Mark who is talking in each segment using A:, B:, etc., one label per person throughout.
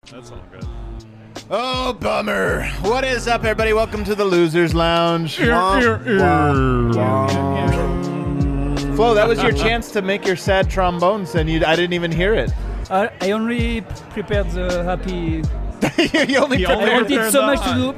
A: That's all good.
B: Oh, bummer. What is up, everybody? Welcome to the Losers Lounge. Flo, that was your chance to make your sad trombones, and I didn't even hear it.
C: I only prepared the happy...
B: you only
C: I wanted so much to do.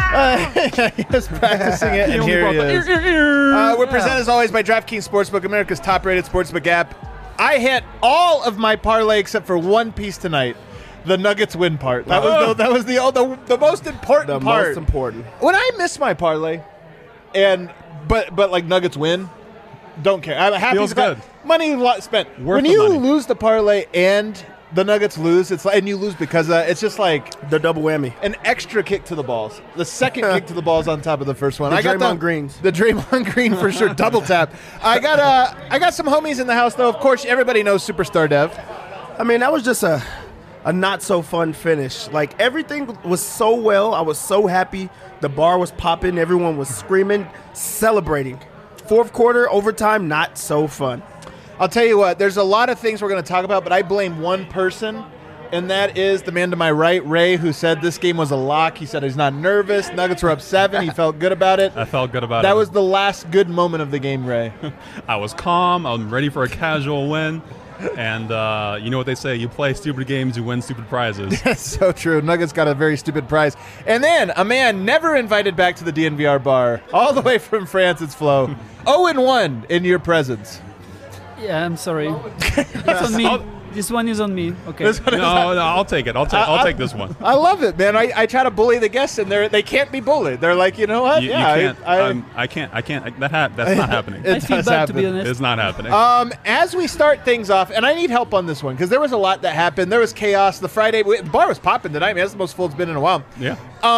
B: He was practicing it, and here he is. We're presented, as always, by DraftKings Sportsbook, America's top-rated sportsbook app. I hit all of my parlay except for one piece tonight. The Nuggets win part. That was the most important part.
D: The most important.
B: When I miss my parlay, but like Nuggets win, don't care. I'm happy.
A: Feels good.
B: Money spent. When
A: the
B: you
A: money.
B: lose the parlay and the Nuggets lose, it's like, and you lose because it's just like
D: The double whammy.
B: an extra kick to the balls. The second kick to the balls on top of the first one.
D: The
B: I got
D: Draymond Greens.
B: The Draymond Green for sure. Double tap. I got some homies in the house though. Of course, everybody knows Superstar Dev.
D: I mean, that was just a not so fun finish. Like, everything was so well. I was so happy. The bar was popping. Everyone was screaming, celebrating. Fourth quarter, overtime, not so fun.
B: I'll tell you what, there's a lot of things we're going to talk about, but I blame one person, and that is the man to my right, Ray, who said this game was a lock. He said he's not nervous. Nuggets were up 7. He felt good about it.
A: I felt good about it.
B: That was the last good moment of the game, Ray.
A: I was calm. I'm ready for a casual win. And you know what they say, you play stupid games, you win stupid prizes.
B: That's so true. Nuggets got a very stupid prize. And then a man never invited back to the DNVR bar, all the way from France, it's Flo. 0-1 in your presence.
C: Yeah, I'm sorry. It's on me. This one is on me. Okay.
A: No, I'll take it. I'll take this one.
B: I love it, man. I try to bully the guests, and they can't be bullied. They're like, you know what?
A: You
B: yeah,
A: can't. I can't. That's not happening.
C: I feel
B: does
C: bad, to be
B: happen.
C: honest.
A: It's not happening.
B: As we start things off, and I need help on this one because there was a lot that happened. There was chaos. The bar was popping tonight. Man, that's the most full it's been in a while.
A: Yeah.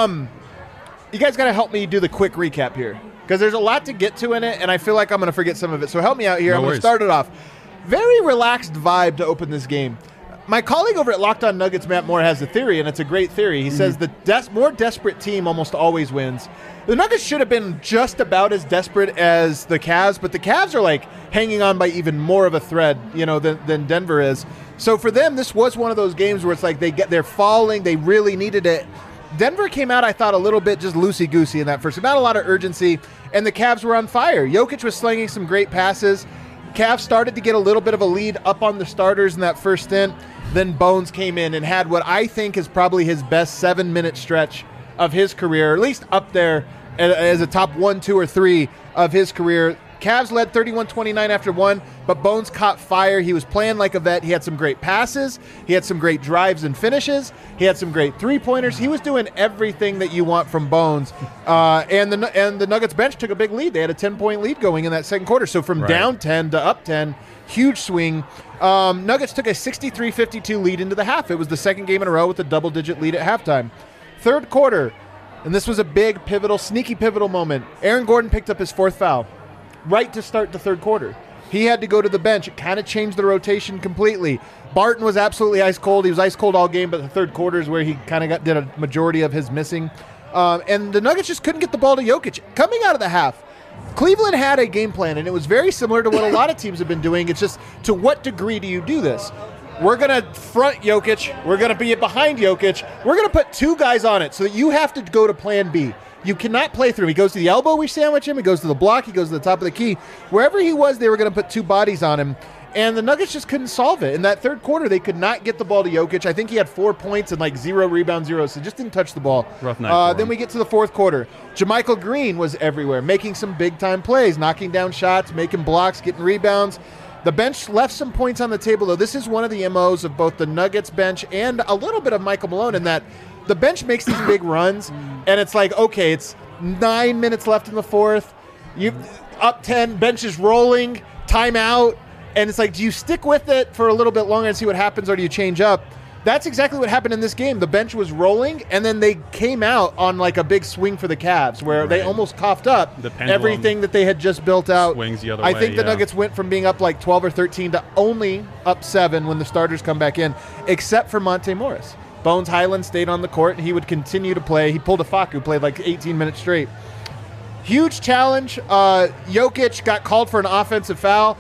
B: You guys got to help me do the quick recap here because there's a lot to get to in it, and I feel like I'm going to forget some of it. So help me out here.
A: No
B: I'm going to
A: worries.
B: start it off. Very relaxed vibe to open this game. My colleague over at Locked On Nuggets, Matt Moore, has a theory, and it's a great theory. He says the more desperate team almost always wins. The Nuggets should have been just about as desperate as the Cavs, but the Cavs are like hanging on by even more of a thread, than Denver is. So for them, this was one of those games where it's like they're falling. They really needed it. Denver came out, I thought, a little bit just loosey-goosey in that first. Not a lot of urgency, and the Cavs were on fire. Jokic was slinging some great passes. Cavs started to get a little bit of a lead up on the starters in that first stint. Then Bones came in and had what I think is probably his best 7-minute stretch of his career, at least up there as a top 1, 2, or 3 of his career. Cavs led 31-29 after 1, but Bones caught fire. He was playing like a vet. He had some great passes. He had some great drives and finishes. He had some great three-pointers. He was doing everything that you want from Bones. And the Nuggets bench took a big lead. They had a 10-point lead going in that second quarter. So from down 10 to up 10, huge swing. Nuggets took a 63-52 lead into the half. It was the second game in a row with a double-digit lead at halftime. Third quarter, and this was a big, sneaky pivotal moment. Aaron Gordon picked up his 4th foul right to start the third quarter. He had to go to the bench. It kind of changed the rotation completely. Barton was absolutely ice cold. He was ice cold all game, but the third quarter is where he kind of did a majority of his missing. And the Nuggets just couldn't get the ball to Jokic. Coming out of the half, Cleveland had a game plan, and it was very similar to what a lot of teams have been doing. It's just, to what degree do you do this? We're going to front Jokic. We're going to be behind Jokic. We're going to put 2 guys on it so that you have to go to plan B. You cannot play through him. He goes to the elbow, we sandwich him. He goes to the block. He goes to the top of the key. Wherever he was, they were going to put 2 bodies on him. And the Nuggets just couldn't solve it. In that third quarter, they could not get the ball to Jokic. I think he had 4 points and 0 rebounds, 0. So just didn't touch the ball.
A: Rough night for
B: Then
A: him.
B: we get to the fourth quarter. JaMychal Green was everywhere, making some big-time plays, knocking down shots, making blocks, getting rebounds. The bench left some points on the table, though. This is one of the MOs of both the Nuggets bench and a little bit of Michael Malone in that the bench makes these big runs, and it's like, okay, it's 9 minutes left in the fourth. You up 10, bench is rolling, timeout, and it's like, do you stick with it for a little bit longer and see what happens, or do you change up? That's exactly what happened in this game. The bench was rolling, and then they came out on a big swing for the Cavs, where they almost coughed up
A: The pendulum
B: everything that they had just built out.
A: swings the other
B: I
A: way,
B: think the
A: yeah.
B: Nuggets went from being up 12 or 13 to only up 7 when the starters come back in, except for Monte Morris. Bones Highland stayed on the court, and he would continue to play. He pulled a Facu, played 18 minutes straight. Huge challenge. Jokic got called for an offensive foul.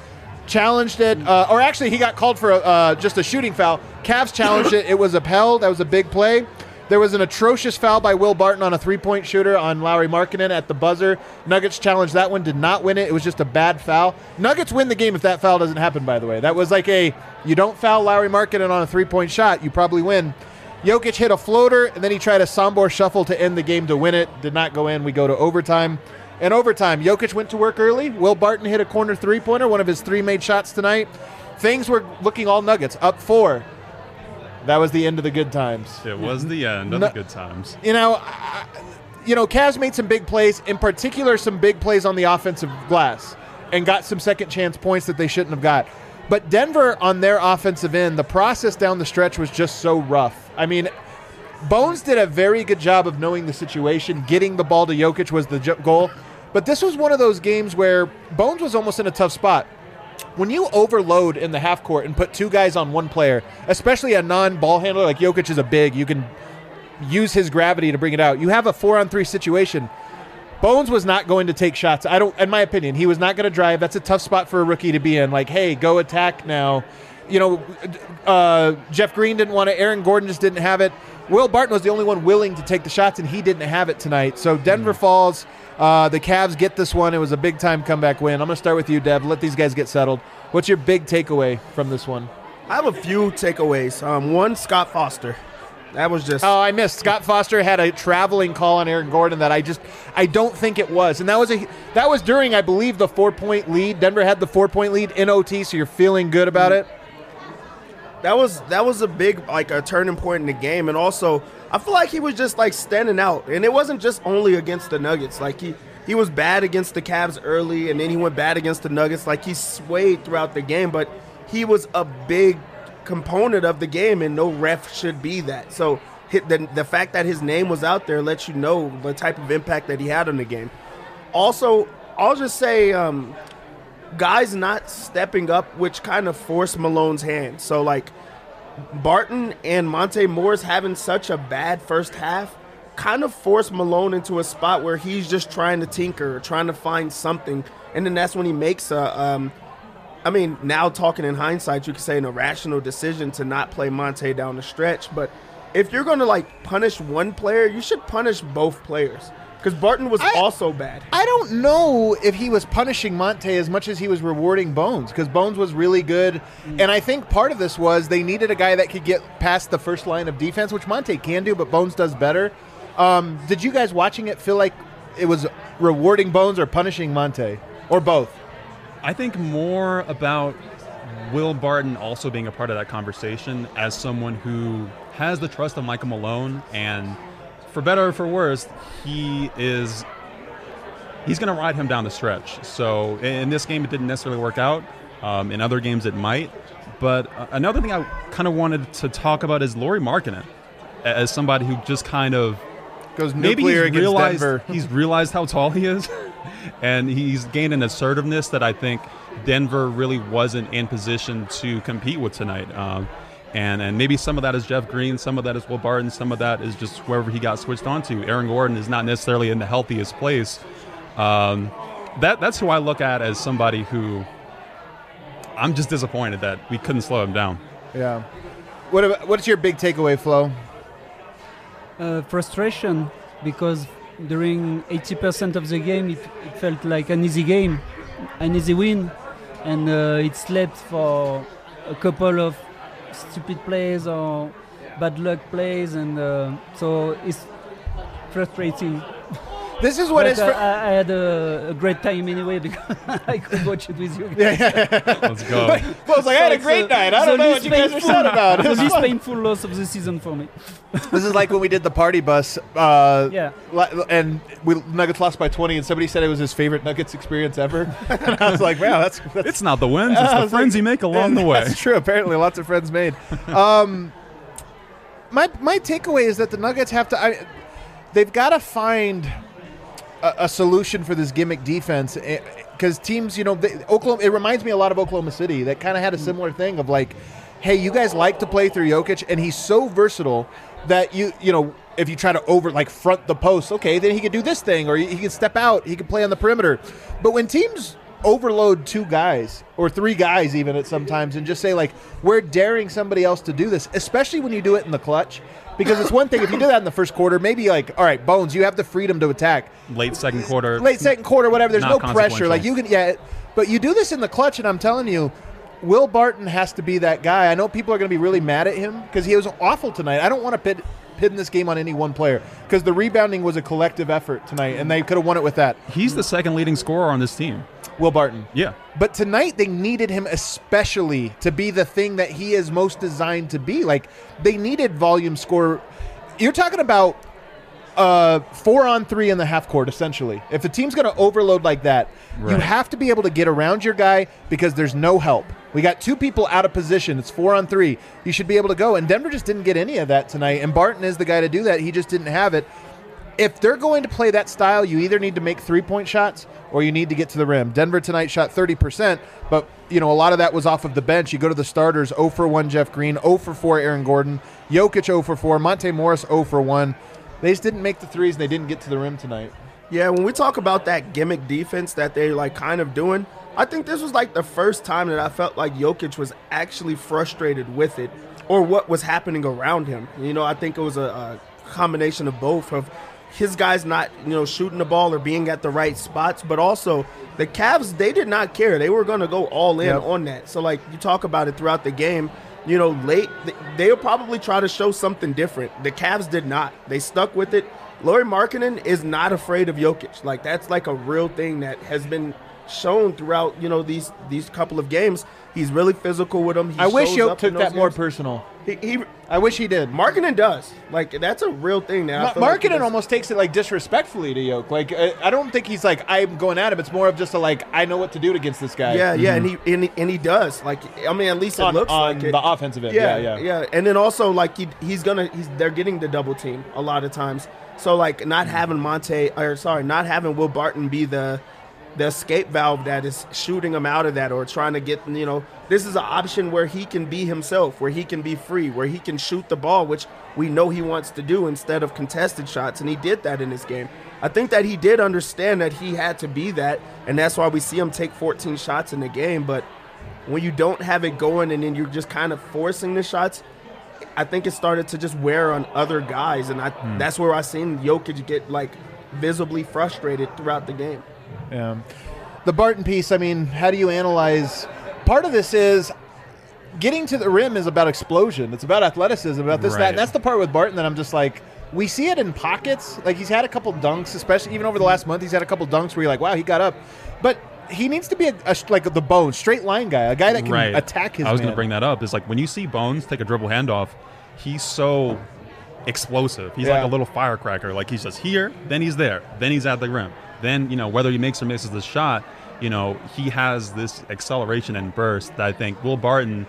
B: challenged it, or actually he got called for just a shooting foul. Cavs challenged it. It was upheld. That was a big play. There was an atrocious foul by Will Barton on a three-point shooter on Lauri Markkanen at the buzzer. Nuggets challenged that one, did not win it. It was just a bad foul. Nuggets win the game if that foul doesn't happen, by the way. That was like you don't foul Lauri Markkanen on a three-point shot, you probably win. Jokic hit a floater, and then he tried a Sombor shuffle to end the game to win it. Did not go in. We go to overtime. In overtime, Jokic went to work early. Will Barton hit a corner three-pointer, one of his 3 made shots tonight. Things were looking all Nuggets, up 4. That was the end of the good times.
A: It was the end of the good times.
B: Cavs made some big plays, in particular some big plays on the offensive glass, and got some second chance points that they shouldn't have got. But Denver, on their offensive end, the process down the stretch was just so rough. I mean, Bones did a very good job of knowing the situation. Getting the ball to Jokic was the goal. But this was one of those games where Bones was almost in a tough spot. When you overload in the half court and put 2 guys on one player, especially a non-ball handler like Jokic is a big, you can use his gravity to bring it out. You have a 4-on-3 situation. Bones was not going to take shots. In my opinion, he was not going to drive. That's a tough spot for a rookie to be in. Like, hey, go attack now. Jeff Green didn't want it. Aaron Gordon just didn't have it. Will Barton was the only one willing to take the shots, and he didn't have it tonight. So Denver falls. The Cavs get this one. It was a big-time comeback win. I'm going to start with you, Dev. Let these guys get settled. What's your big takeaway from this one?
D: I have a few takeaways. One, Scott Foster. That was just...
B: Oh, I missed. Scott Foster had a traveling call on Aaron Gordon that I don't think it was. And that was during, I believe, the 4-point lead. Denver had the 4-point lead in OT, so you're feeling good about it?
D: That was a big, a turning point in the game. And also, I feel like he was just, standing out. And it wasn't just only against the Nuggets. He was bad against the Cavs early, and then he went bad against the Nuggets. He swayed throughout the game, but he was a big component of the game, and no ref should be that. So the fact that his name was out there lets you know the type of impact that he had on the game. Also, I'll just say guys not stepping up, which kind of forced Malone's hand. So, Barton and Monte Morris having such a bad first half kind of forced Malone into a spot where he's just trying to tinker, trying to find something. And then that's when he makes now talking in hindsight, you could say an irrational decision to not play Monte down the stretch. But if you're going to, punish one player, you should punish both players. Because Barton was also bad.
B: I don't know if he was punishing Monte as much as he was rewarding Bones, because Bones was really good. And I think part of this was they needed a guy that could get past the first line of defense, which Monte can do, but Bones does better. Did you guys watching it feel like it was rewarding Bones or punishing Monte? Or both?
A: I think more about Will Barton also being a part of that conversation as someone who has the trust of Michael Malone, and for better or for worse, he's going to ride him down the stretch. So in this game, it didn't necessarily work out. In other games, it might. But another thing I kind of wanted to talk about is Lauri Markkanen, as somebody who just kind of
B: goes nuclear against Denver.
A: He's realized how tall he is, and he's gained an assertiveness that I think Denver really wasn't in position to compete with tonight. And maybe some of that is Jeff Green, some of that is Will Barton, some of that is just wherever he got switched onto. Aaron Gordon is not necessarily in the healthiest place. That's who I look at as somebody who I'm just disappointed that we couldn't slow him down.
B: Yeah. What's your big takeaway, Flo?
C: Frustration, because during 80% of the game, it felt like an easy game, an easy win, and it slept for a couple of stupid plays or bad luck plays, and so it's frustrating.
B: This is what
C: I had a great time anyway because I could watch it with you.
A: Let's go.
B: Well, it's I had a great night. I don't know what you guys are sad about.
C: It was the least painful loss of the season for me.
B: This is like when we did the party bus. And Nuggets lost by 20, and somebody said it was his favorite Nuggets experience ever. And I was like, wow, that's
A: it's not the wins, it's the friends you make along the way.
B: That's true. Apparently, lots of friends made. My takeaway is that the Nuggets have to. They've got to find a solution for this gimmick defense, because teams, Oklahoma. It reminds me a lot of Oklahoma City. That kind of had a similar thing of like, hey, you guys like to play through Jokic, and he's so versatile that if you try to front the post, okay, then he could do this thing, or he could step out, he could play on the perimeter. But when teams overload 2 guys or 3 guys even at sometimes and just say, like, we're daring somebody else to do this, especially when you do it in the clutch. Because it's one thing if you do that in the first quarter, maybe like, all right, Bones, you have the freedom to attack.
A: Late second quarter,
B: whatever. There's no pressure. Like you can, but you do this in the clutch, and I'm telling you, Will Barton has to be that guy. I know people are going to be really mad at him because he was awful tonight. I don't want to pin this game on any one player because the rebounding was a collective effort tonight, and they could have won it with that.
A: He's the second leading scorer on this team.
B: Will Barton.
A: Yeah.
B: But tonight they needed him especially to be the thing that he is most designed to be. Like, they needed volume score. You're talking about 4-on-3 in the half court, essentially. If the team's going to overload like that, you have to be able to get around your guy because there's no help. We got 2 people out of position. It's 4-on-3. You should be able to go. And Denver just didn't get any of that tonight. And Barton is the guy to do that. He just didn't have it. If they're going to play that style, you either need to make 3-point shots or you need to get to the rim. Denver tonight shot 30%, but a lot of that was off of the bench. You go to the starters, 0 for 1 Jeff Green, 0 for 4 Aaron Gordon, Jokic 0 for 4, Monte Morris 0 for 1. They just didn't make the threes, and they didn't get to the rim tonight.
D: Yeah, when we talk about that gimmick defense that they're like kind of doing, I think this was like the first time that I felt like Jokic was actually frustrated with it or what was happening around him. I think it was a combination of both of his guys not, shooting the ball or being at the right spots, but also the Cavs, they did not care. They were going to go all in on that. So, like, you talk about it throughout the game, late, they'll probably try to show something different. The Cavs did not. They stuck with it. Lauri Markkanen is not afraid of Jokic. Like, that's like a real thing that has been shown throughout, these couple of games. He's really physical with him.
B: I wish Jokic took that more personal. I wish he did.
D: Markkanen does. Like, that's a real thing now.
B: Markkanen almost takes it, like, disrespectfully to Jokic. Like, I don't think he's like, I'm going at him. It's more of just I know what to do against this guy.
D: Yeah, and he does. Like, I mean, at least it looks like it.
B: On the offensive end, yeah.
D: And then also, like, they're getting the double team a lot of times. So, like, not having Will Barton be the escape valve that is shooting him out of that or trying to get, this is an option where he can be himself, where he can be free, where he can shoot the ball, which we know he wants to do instead of contested shots, and he did that in this game. I think that he did understand that he had to be that, and that's why we see him take 14 shots in the game. But when you don't have it going and then you're just kind of forcing the shots, I think it started to just wear on other guys, and that's where I seen Jokic get, like, visibly frustrated throughout the game.
B: Yeah. The Barton piece, I mean, how do you analyze? Part of this is getting to the rim is about explosion. It's about athleticism, about this, that. And that's the part with Barton that I'm just like, we see it in pockets. Like, he's had a couple dunks, especially even over the last month. He's had a couple dunks where you're like, wow, he got up. But he needs to be like the Bones, straight line guy, a guy that can attack his man.
A: I was going to bring that up. It's like when you see Bones take a dribble handoff, he's so explosive. He's like a little firecracker. Like, he's just here, then he's there, then he's at the rim. Then, whether he makes or misses the shot, he has this acceleration and burst that I think Will Barton,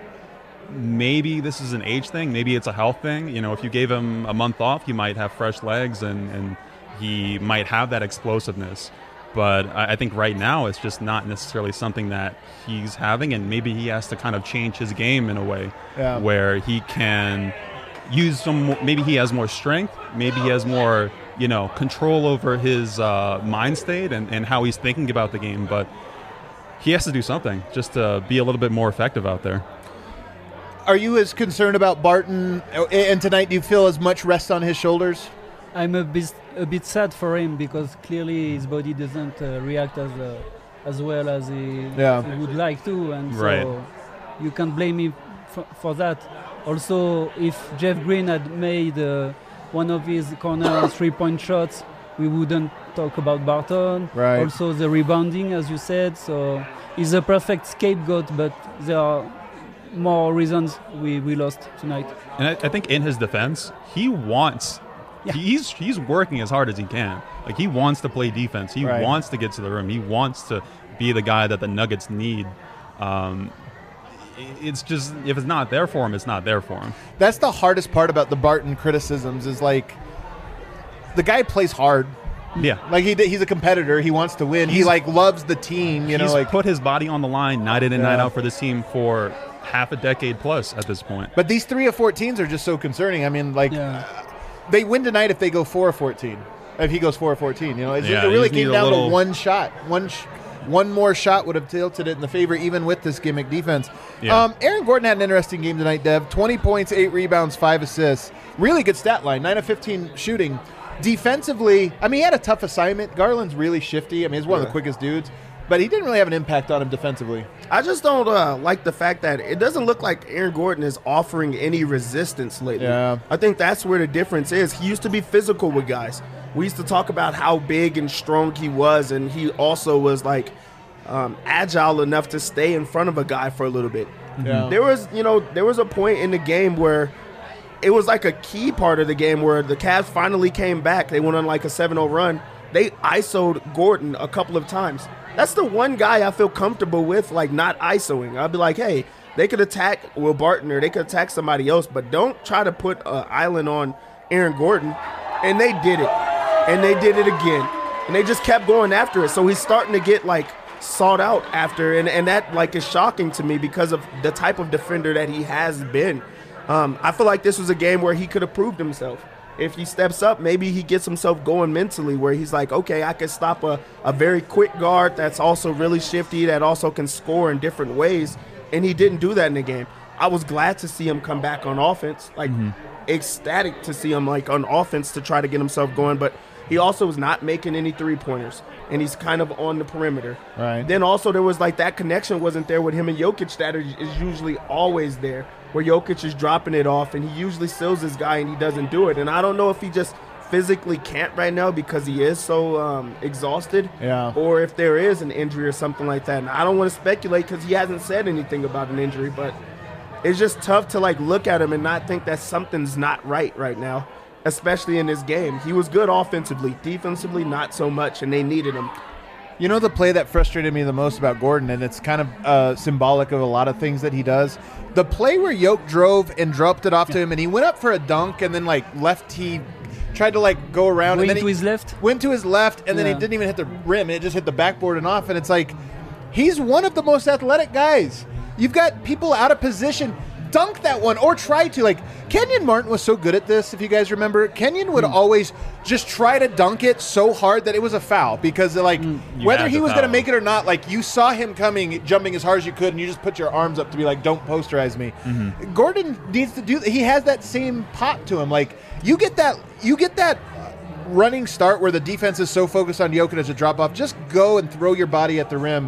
A: maybe this is an age thing, maybe it's a health thing. If you gave him a month off, he might have fresh legs and he might have that explosiveness. But I think right now it's just not necessarily something that he's having, and maybe he has to kind of change his game in a way where he can use some, maybe he has more strength, maybe he has more control over his mind state and how he's thinking about the game, but he has to do something just to be a little bit more effective out there.
B: Are you as concerned about Barton? And tonight, do you feel as much rest on his shoulders?
C: I'm a bit sad for him because clearly his body doesn't react as well as he would like to, and so you can't blame him for that. Also, if Jeff Green had made one of his corner 3-point shots, we wouldn't talk about Barton.
B: Right.
C: Also, the rebounding, as you said. So he's a perfect scapegoat, but there are more reasons we lost tonight.
A: And I think in his defense, he wants... Yeah. He's working as hard as he can. Like, he wants to play defense. He wants to get to the rim. He wants to be the guy that the Nuggets need. It's just, if it's not there for him, it's not there for him.
B: That's the hardest part about the Barton criticisms is, like, the guy plays hard.
A: Yeah.
B: Like, he's a competitor. He wants to win. He, like, loves the team.
A: He's put his body on the line night in and night out for this team for half a decade plus at this point.
B: But these 3 of 14s are just so concerning. I mean, like... They win tonight if they go 4 of 14. If he goes 4 of 14, it really came down to one shot. one more shot would have tilted it in the favor, even with this gimmick defense.
A: Yeah.
B: Aaron Gordon had an interesting game tonight, Dev. 20 points, 8 rebounds, 5 assists. Really good stat line, 9 of 15 shooting. Defensively, I mean, he had a tough assignment. Garland's really shifty. I mean, he's one of the quickest dudes. But he didn't really have an impact on him defensively.
D: I just don't like the fact that it doesn't look like Aaron Gordon is offering any resistance lately.
B: Yeah.
D: I think that's where the difference is. He used to be physical with guys. We used to talk about how big and strong he was, and he also was like agile enough to stay in front of a guy for a little bit.
B: Yeah.
D: There was a point in the game where it was like a key part of the game where the Cavs finally came back. They went on like a 7-0 run. They ISO'd Gordon a couple of times. That's the one guy I feel comfortable with, like, not ISOing. I'll be like, hey, they could attack Will Barton or they could attack somebody else, but don't try to put an island on Aaron Gordon. And they did it. And they did it again. And they just kept going after it. So he's starting to get, like, sought out after. And that, like, is shocking to me because of the type of defender that he has been. I feel like this was a game where he could have proved himself. If he steps up, maybe he gets himself going mentally where he's like, okay, I can stop a very quick guard that's also really shifty, that also can score in different ways. And he didn't do that in the game. I was glad to see him come back on offense, like ecstatic to see him like on offense to try to get himself going. But he also was not making any three-pointers, and he's kind of on the perimeter.
B: Right.
D: Then also there was like that connection wasn't there with him and Jokic that is usually always there, where Jokic is dropping it off, and he usually seals his guy, and he doesn't do it. And I don't know if he just physically can't right now because he is so exhausted, or if there is an injury or something like that. And I don't want to speculate because he hasn't said anything about an injury, but it's just tough to like look at him and not think that something's not right now, especially in this game. He was good offensively, defensively not so much, and they needed him.
B: You know the play that frustrated me the most about Gordon, and it's kind of symbolic of a lot of things that he does? The play where Yoke drove and dropped it off to him, and he went up for a dunk, and then like he tried to like go around.
C: Went
B: and then
C: to his left?
B: Went to his left, and then he didn't even hit the rim. It just hit the backboard and off, and it's like he's one of the most athletic guys. You've got people out of position. Dunk that one or try to. Like, Kenyon Martin was so good at this, if you guys remember. Kenyon would always just try to dunk it so hard that it was a foul because, like, whether he was going to make it or not, like, you saw him coming, jumping as hard as you could, and you just put your arms up to be like, don't posterize me. Gordon needs to do that. He has that same pop to him. Like, you get that running start where the defense is so focused on Jokic as a drop-off. Just go and throw your body at the rim.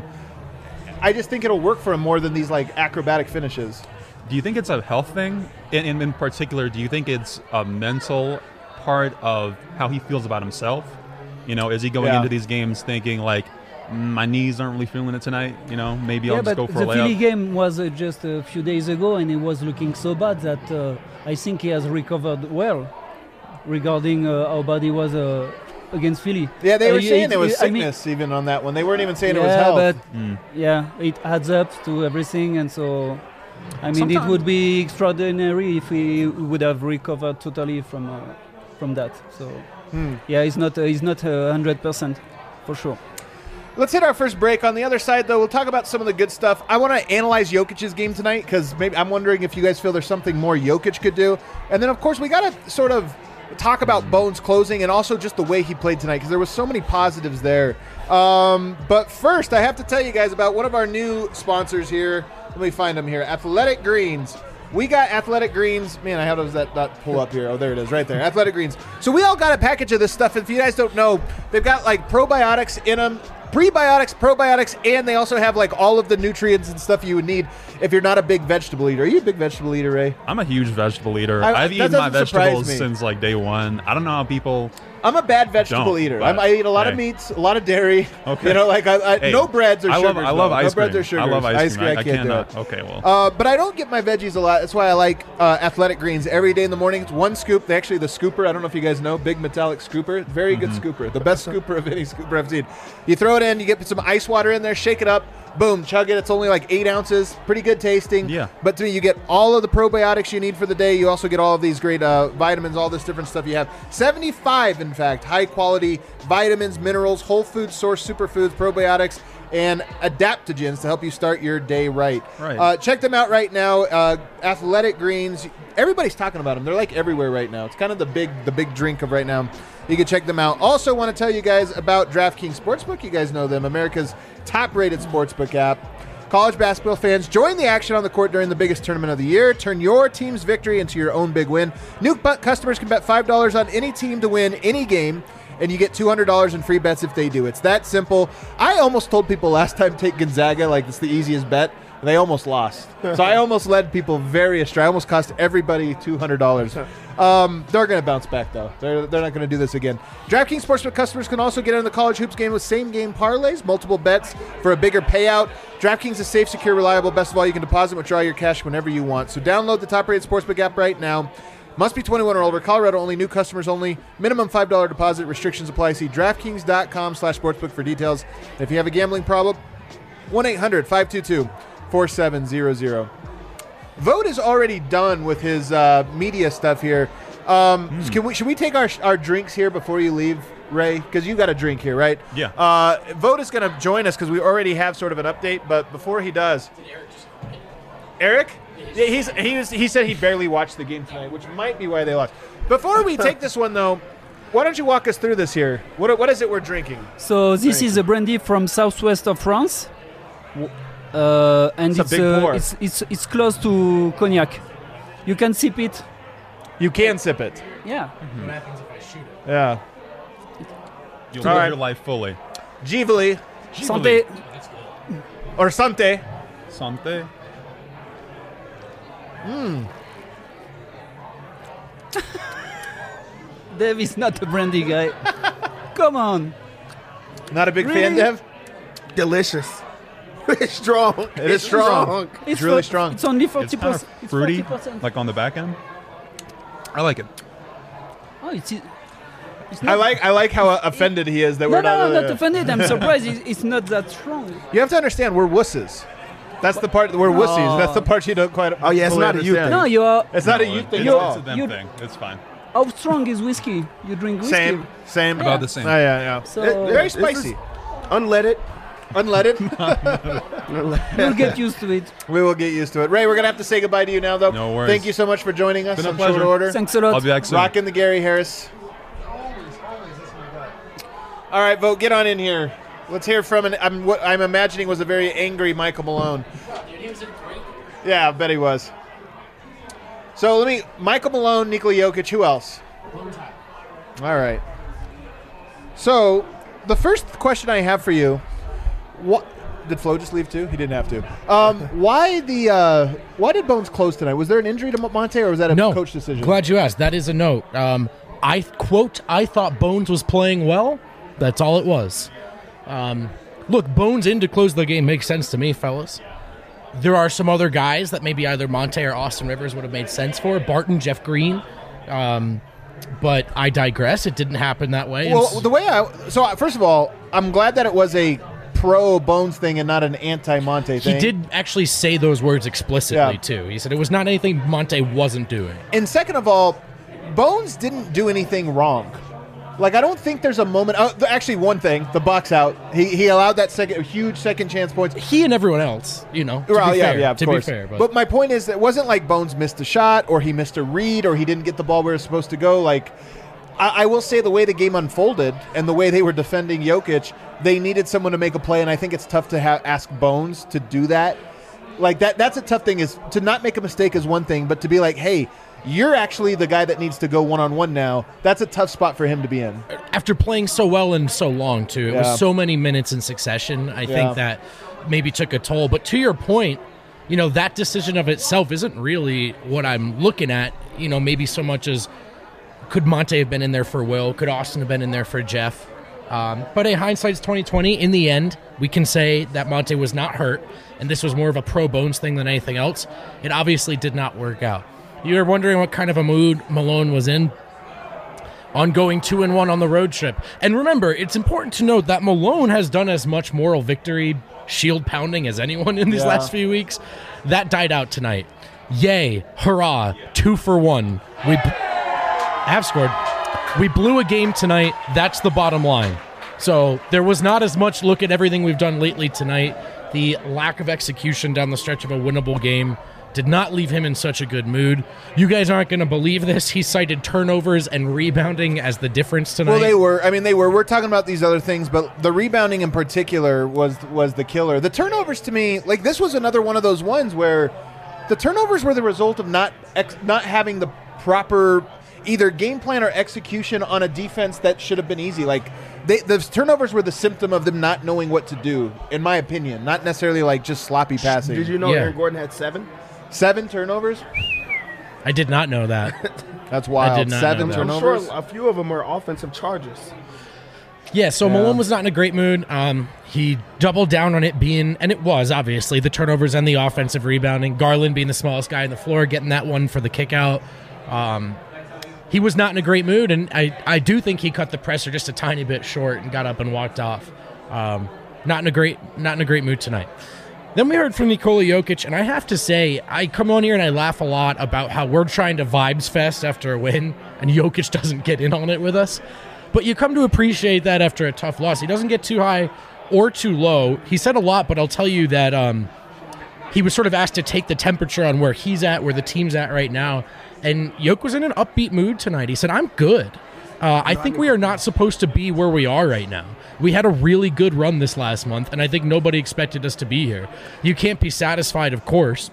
B: I just think it'll work for him more than these, like, acrobatic finishes.
A: Do you think it's a health thing? In particular, do you think it's a mental part of how he feels about himself? You know, is he going into these games thinking like, my knees aren't really feeling it tonight? You know, maybe I'll just go for a layup.
C: The Philly game was just a few days ago, and he was looking so bad that I think he has recovered well regarding how bad he was against Philly.
B: Yeah, they were saying there was sickness even on that one. They weren't even saying it was health.
C: But it adds up to everything, and so I mean, it would be extraordinary if we would have recovered totally from that. So, yeah, he's not 100% for sure.
B: Let's hit our first break. On the other side, though, we'll talk about some of the good stuff. I want to analyze Jokic's game tonight because maybe I'm wondering if you guys feel there's something more Jokic could do. And then, of course, we got to sort of talk about Bones closing and also just the way he played tonight because there was so many positives there. But first, I have to tell you guys about one of our new sponsors here. Let me find them here. Athletic Greens. We got Athletic Greens. Man, how does that not pull up here? Oh, there it is right there. Athletic Greens. So we all got a package of this stuff. If you guys don't know, they've got like probiotics in them. Prebiotics, probiotics, and they also have like all of the nutrients and stuff you would need if you're not a big vegetable eater. Are you a big vegetable eater, Ray?
A: I'm a huge vegetable eater. I've eaten my vegetables since like day one. I don't know how people...
B: I'm a bad vegetable eater. I eat a lot of meats, a lot of dairy.
A: Okay.
B: You know, like no breads or sugars.
A: I love ice cream.
B: No breads or sugars.
A: I love ice cream.
B: I can't do it.
A: Okay, well.
B: But I don't get my veggies a lot. That's why I like Athletic Greens every day in the morning. It's one scoop. Actually, the scooper, I don't know if you guys know, big metallic scooper. Very good scooper. The best scooper of any scooper I've seen. You throw it in, you get some ice water in there, shake it up, boom, chug it. It's only like 8 ounces. Pretty good tasting.
A: Yeah.
B: But to me, you get all of the probiotics you need for the day. You also get all of these great vitamins, all this different stuff you have. 75, in fact, high quality vitamins, minerals, whole food source superfoods, probiotics, and adaptogens to help you start your day right.
A: Right.
B: Check them out right now. Athletic Greens. Everybody's talking about them. They're like everywhere right now. It's kind of the big drink of right now. You can check them out. Also want to tell you guys about DraftKings Sportsbook. You guys know them, America's top-rated sportsbook app. College basketball fans, join the action on the court during the biggest tournament of the year. Turn your team's victory into your own big win. New customers can bet $5 on any team to win any game, and you get $200 in free bets if they do. It's that simple. I almost told people last time take Gonzaga like it's the easiest bet. They almost lost. So I almost led people very astray. I almost cost everybody $200. They're going to bounce back, though. They're not going to do this again. DraftKings Sportsbook customers can also get in the college hoops game with same-game parlays, multiple bets for a bigger payout. DraftKings is safe, secure, reliable. Best of all, you can deposit and withdraw your cash whenever you want. So download the top-rated Sportsbook app right now. Must be 21 or older. Colorado only. New customers only. Minimum $5 deposit. Restrictions apply. See DraftKings.com/sportsbook for details. If you have a gambling problem, 1-800-522-4700. Vote is alrete done with his media stuff here. Should we take our drinks here before you leave, Ray? Because you got a drink here, right?
A: Yeah.
B: Vote is going to join us because we already have sort of an update. But before he does, Eric? Yeah, he said he barely watched the game tonight, which might be why they lost. Before we take this one, though, why don't you walk us through this here? What is it we're drinking?
C: So this is a brandy from southwest of France. And
B: It's a big pour.
C: it's close to cognac. You can sip it.
B: You can sip it.
C: Yeah.
E: What happens if I shoot it?
B: Yeah.
A: You'll
B: All
A: live
B: right.
A: your life fully.
B: Givoli
C: Santé.
E: That's good.
B: or Sante.
A: Sante.
C: Dave is not a brandy guy. Come on.
B: Not a big fan,
C: Really?
B: Dev?
D: Delicious. It's strong.
B: It is strong. It's really strong.
C: It's only
A: It's
C: 40%.
A: kind of fruity,
C: 40%.
A: like on the back end. I like it.
C: Oh, it's
B: I like how offended he is that
C: No,
B: we're not.
C: not offended. I'm surprised it's not that strong.
B: You have to understand, we're wusses. That's the part. We're wussies. That's the part you don't quite.
D: Oh, yeah, it's
B: fully
D: not a you
B: understand.
C: No, you are.
B: It's not a
A: No,
B: youth thing
A: it's,
B: at
A: it's
B: all.
A: a them
C: You-
A: thing. It's fine.
C: How strong is whiskey? You drink whiskey.
B: Same.
A: About the same.
B: Oh, yeah.
C: So
B: Very
D: This is
B: spicy.
D: Unleaded.
B: Unleaded.
C: you'll get used to it.
B: We will get used to it. Ray, we're gonna have to say goodbye to you now, though.
A: No worries.
B: Thank you so much for joining us
A: Been a
B: on short
A: pleasure.
B: order.
C: Thanks a lot.
A: I'll be back soon.
B: Rocking the Gary Harris. All right, Vote, get on in here. Let's hear from what I'm imagining was a very angry Michael Malone.
E: Dude, he was in great.
B: Yeah, I bet he was. So Michael Malone, Nikola Jokic, who else?
E: One time.
B: All right. So the first question I have for you, what did Flo just leave too? He didn't have to. Why did Bones close tonight? Was there an injury to Monte, or was that a
F: No.
B: coach decision?
F: Glad you asked. That is a note. I thought Bones was playing well. That's all it was. Look, Bones in to close the game makes sense to me, fellas. There are some other guys that maybe either Monte or Austin Rivers would have made sense for. Barton, Jeff Green. But I digress. It didn't happen that way.
B: Well, first of all, I'm glad that it was a pro Bones thing and not an anti Monte thing.
F: he did actually say those words explicitly,
B: Yeah.
F: too. He said it was not anything Monte wasn't doing.
B: And second of all, Bones didn't do anything wrong. Like, I don't think there's a moment. Actually, one thing, the box out. He allowed that huge second chance points.
F: He and everyone else, to
B: Well,
F: be fair.
B: yeah, of
F: to
B: course.
F: be fair.
B: But my point is, it wasn't like Bones missed a shot, or he missed a read, or he didn't get the ball where it was supposed to go. Like, I will say the way the game unfolded and the way they were defending Jokic, they needed someone to make a play, and I think it's tough to ask Bones to do that. Like, that's a tough thing, is to not make a mistake is one thing, but to be like, hey, you're actually the guy that needs to go one-on-one now. That's a tough spot for him to be in.
F: After playing so well and so long, too. It
B: Yeah.
F: was so many minutes in succession. I
B: Yeah.
F: think that maybe took a toll. But to your point, that decision of itself isn't really what I'm looking at, maybe so much as could Monte have been in there for Will? Could Austin have been in there for Jeff? But hey, hindsight's 2020. In the end, we can say that Monte was not hurt, and this was more of a pro Bones thing than anything else. It obviously did not work out. You're wondering what kind of a mood Malone was in on going 2-1 on the road trip. And remember, it's important to note that Malone has done as much moral victory shield pounding as anyone in these
B: Yeah.
F: last few weeks. That died out tonight. Yay, hurrah, 2 for 1. We have scored. We blew a game tonight. That's the bottom line. So there was not as much look at everything we've done lately tonight. The lack of execution down the stretch of a winnable game did not leave him in such a good mood. You guys aren't going to believe this. He cited turnovers and rebounding as the difference tonight.
B: Well, they were. I mean, they were. We're talking about these other things, but the rebounding in particular was the killer. The turnovers, to me, like this was another one of those ones where the turnovers were the result of not having the proper either game plan or execution on a defense that should have been easy. Like the turnovers were the symptom of them not knowing what to do, in my opinion. Not necessarily like just sloppy passing.
D: Did you know
F: Yeah.
D: Aaron Gordon had 7?
B: 7 turnovers?
F: I did not know that.
B: That's wild.
F: I did not
B: 7
F: know that.
D: I'm
B: turnovers.
D: sure a few of them were offensive charges.
F: Yeah, so
B: Yeah.
F: Malone was not in a great mood. He doubled down on it being, and it was obviously, the turnovers and the offensive rebounding. Garland being the smallest guy on the floor, getting that one for the kick out. He was not in a great mood, and I do think he cut the presser just a tiny bit short and got up and walked off. Not in a great mood tonight. Then we heard from Nikola Jokic, and I have to say, I come on here and I laugh a lot about how we're trying to vibes fest after a win, and Jokic doesn't get in on it with us. But you come to appreciate that after a tough loss. He doesn't get too high or too low. He said a lot, but I'll tell you that he was sort of asked to take the temperature on where he's at, where the team's at right now. And Jokic was in an upbeat mood tonight. He said, I'm good. I think we are not supposed to be where we are right now. We had a really good run this last month, and I think nobody expected us to be here. You can't be satisfied, of course.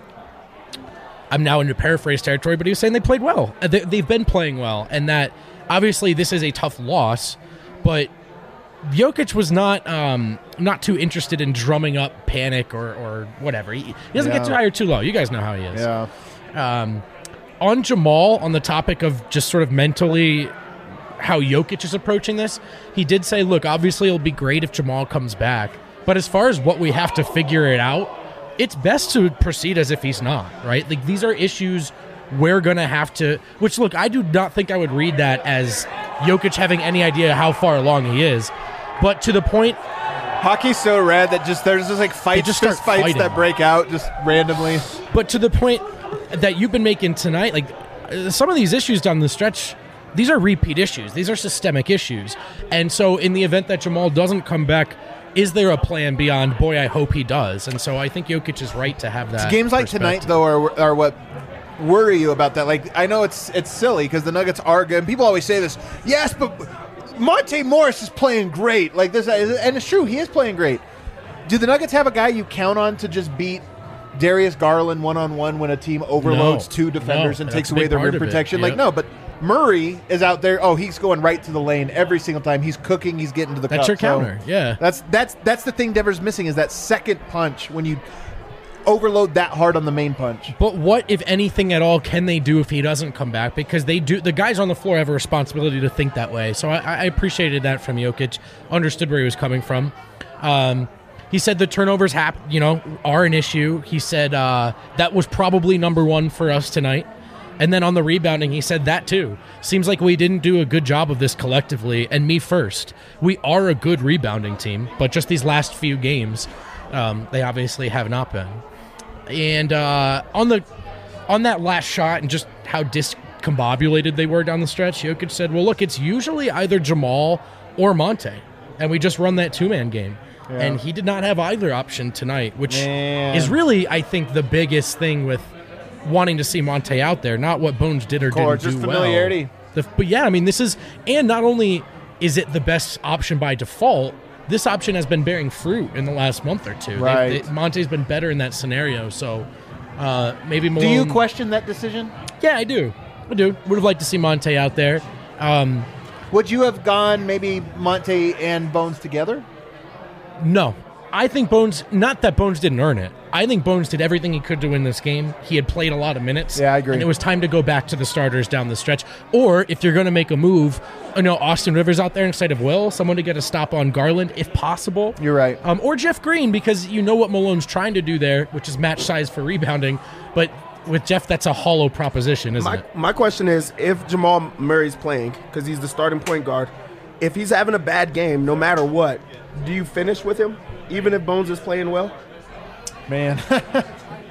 F: I'm now into paraphrase territory, but he was saying they played well. They've been playing well, and that obviously this is a tough loss, but Jokic was not too interested in drumming up panic or whatever. He doesn't get too high or too low. You guys know how he is.
B: Yeah.
F: On Jamal, on the topic of just sort of mentally how Jokic is approaching this, he did say, look, obviously it'll be great if Jamal comes back, but as far as what we have to figure it out, it's best to proceed as if he's not, right? Like, these are issues we're going to have to, which, look, I do not think I would read that as Jokic having any idea how far along he is, but to the point,
B: Hockey's so rad that there's just like fights,
F: just start
B: fights
F: fighting.
B: that break out just randomly.
F: but to the point that you've been making tonight, like some of these issues down the stretch, these are repeat issues. These are systemic issues. And so in the event that Jamal doesn't come back, is there a plan beyond, boy, I hope he does? And so I think Jokic is right to have that.
B: Games like tonight,
F: perspective.
B: though, are what worry you about that. Like, I know it's silly because the Nuggets are good. People always say this, yes, but Monte Morris is playing great. Like this, and it's true, he is playing great. Do the Nuggets have a guy you count on to just beat Darius Garland one-on-one when a team overloads two defenders and
F: that's
B: takes
F: a
B: away
F: big
B: their
F: part
B: rim
F: of it.
B: protection?
F: Yep.
B: Like, no, but Murray is out there. Oh, he's going right to the lane every single time. He's cooking. He's getting to the
F: That's
B: cup.
F: your counter, yeah.
B: That's the thing Denver's missing is that second punch when you overload that hard on the main punch.
F: But what, if anything at all, can they do if he doesn't come back? Because the guys on the floor have a responsibility to think that way. So I appreciated that from Jokic. Understood where he was coming from. He said the turnovers are an issue. He said that was probably number one for us tonight. And then on the rebounding, he said that too. Seems like we didn't do a good job of this collectively, and me first. We are a good rebounding team, but just these last few games, they obviously have not been. And on that last shot and just how discombobulated they were down the stretch, Jokic said, well, look, it's usually either Jamal or Monte, and we just run that two-man game. Yeah. And he did not have either option tonight, which is really, I think, the biggest thing with wanting to see Monte out there, not what Bones did or didn't do
B: just familiarity.
F: well. But yeah, I mean, this is, and not only is it the best option by default, this option has been bearing fruit in the last month or two.
B: Right.
F: Monte's been better in that scenario, so maybe Malone.
B: Do you question that decision?
F: Yeah, I do. Would have liked to see Monte out there.
B: Would you have gone maybe Monte and Bones together?
F: No. I think Bones, not that Bones didn't earn it. I think Bones did everything he could to win this game. He had played a lot of minutes.
B: Yeah, I agree.
F: And it was time to go back to the starters down the stretch. Or if you're going to make a move, Austin Rivers out there instead of Will, someone to get a stop on Garland if possible.
B: You're right.
F: Or Jeff Green, because you know what Malone's trying to do there, which is match size for rebounding. But with Jeff, that's a hollow proposition, isn't it?
D: My question is, if Jamal Murray's playing, because he's the starting point guard, if he's having a bad game, no matter what, do you finish with him, even if Bones is playing well?
B: Man.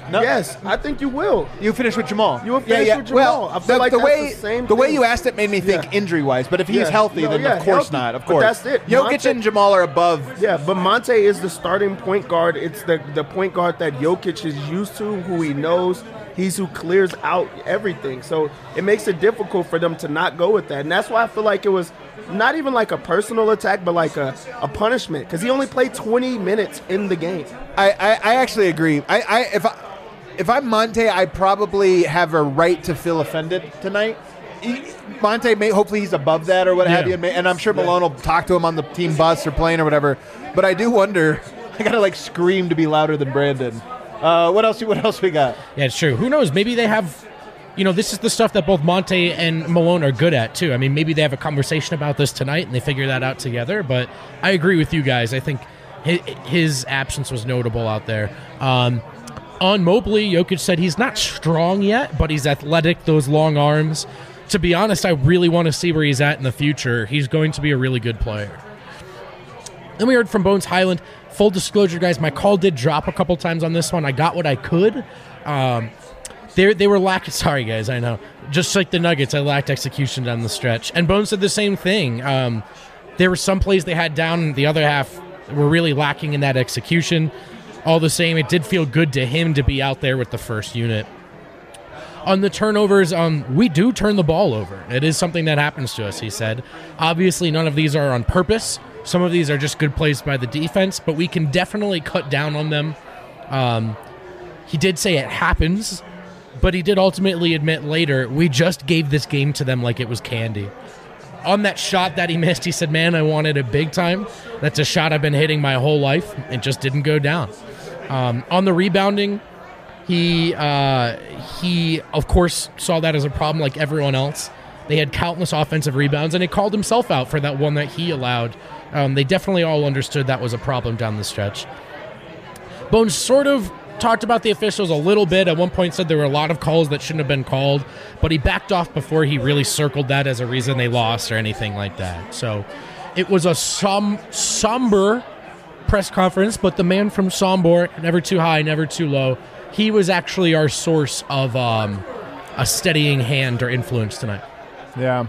B: No.
D: Yes, I think you will.
B: You finish with Jamal.
D: You will finish with Jamal.
B: Well,
D: I feel like
B: the
D: that's
B: way
D: the same
B: way
D: thing.
B: you asked it made me think
D: Yeah.
B: injury-wise. But if he's
D: Yeah.
B: healthy,
D: No,
B: then
D: yeah,
B: of course
D: healthy.
B: not. Of
D: But
B: course,
D: that's it.
B: Jokic
D: Monte-
B: and Jamal are above.
D: Yeah, but Monte is the starting point guard. It's the point guard that Jokic is used to, who he knows. He's who clears out everything. So it makes it difficult for them to not go with that. And that's why I feel like it was not even like a personal attack, but like a punishment. Because he only played 20 minutes in the game.
B: I actually agree. If I'm Monte, I probably have a right to feel offended tonight. Monte, hopefully he's above that or what have
F: Yeah.
B: you. And I'm sure Malone will talk to him on the team bus or plane or whatever. But I do wonder, I got to like scream to be louder than Brandon. What else we got?
F: Yeah, it's true. Who knows? Maybe they have, this is the stuff that both Monte and Malone are good at, too. I mean, maybe they have a conversation about this tonight and they figure that out together. But I agree with you guys. I think his absence was notable out there. On Mobley, Jokic said he's not strong yet, but he's athletic, those long arms. To be honest, I really want to see where he's at in the future. He's going to be a really good player. Then we heard from Bones Highland. Full disclosure, guys, my call did drop a couple times on this one. I got what I could. They were lacking. Sorry, guys, I know. Just like the Nuggets, I lacked execution down the stretch. And Bones said the same thing. There were some plays they had down, and the other half were really lacking in that execution. All the same, it did feel good to him to be out there with the first unit. On the turnovers, we do turn the ball over. It is something that happens to us, he said. Obviously, none of these are on purpose. Some of these are just good plays by the defense, but we can definitely cut down on them. He did say it happens, but he did ultimately admit later, we just gave this game to them like it was candy. On that shot that he missed, he said, man, I wanted it big time. That's a shot I've been hitting my whole life. It just didn't go down. On the rebounding, he of course saw that as a problem like everyone else. They had countless offensive rebounds, and he called himself out for that one that he allowed. They definitely all understood that was a problem down the stretch. Bones sort of talked about the officials a little bit. At one point said there were a lot of calls that shouldn't have been called, but he backed off before he really circled that as a reason they lost or anything like that. So it was a somber press conference, but the man from Sombor, never too high, never too low, he was actually our source of a steadying hand or influence tonight.
B: Yeah.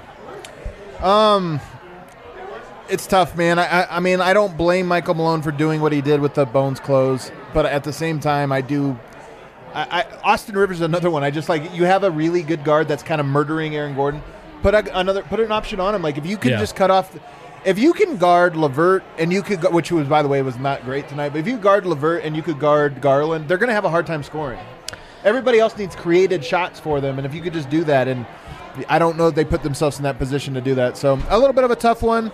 B: It's tough, man. I mean, I don't blame Michael Malone for doing what he did with the Bones close, but at the same time, I do. Austin Rivers is another one. I just like, you have a really good guard that's kind of murdering Aaron Gordon. Put an option on him. Like, if you can just cut off, if you can guard LeVert and you could, which was, by the way, was not great tonight, but if you guard LeVert and you could guard Garland, they're going to have a hard time scoring. Everybody else needs created shots for them, and if you could just do that, and I don't know if they put themselves in that position to do that. So a little bit of a tough one.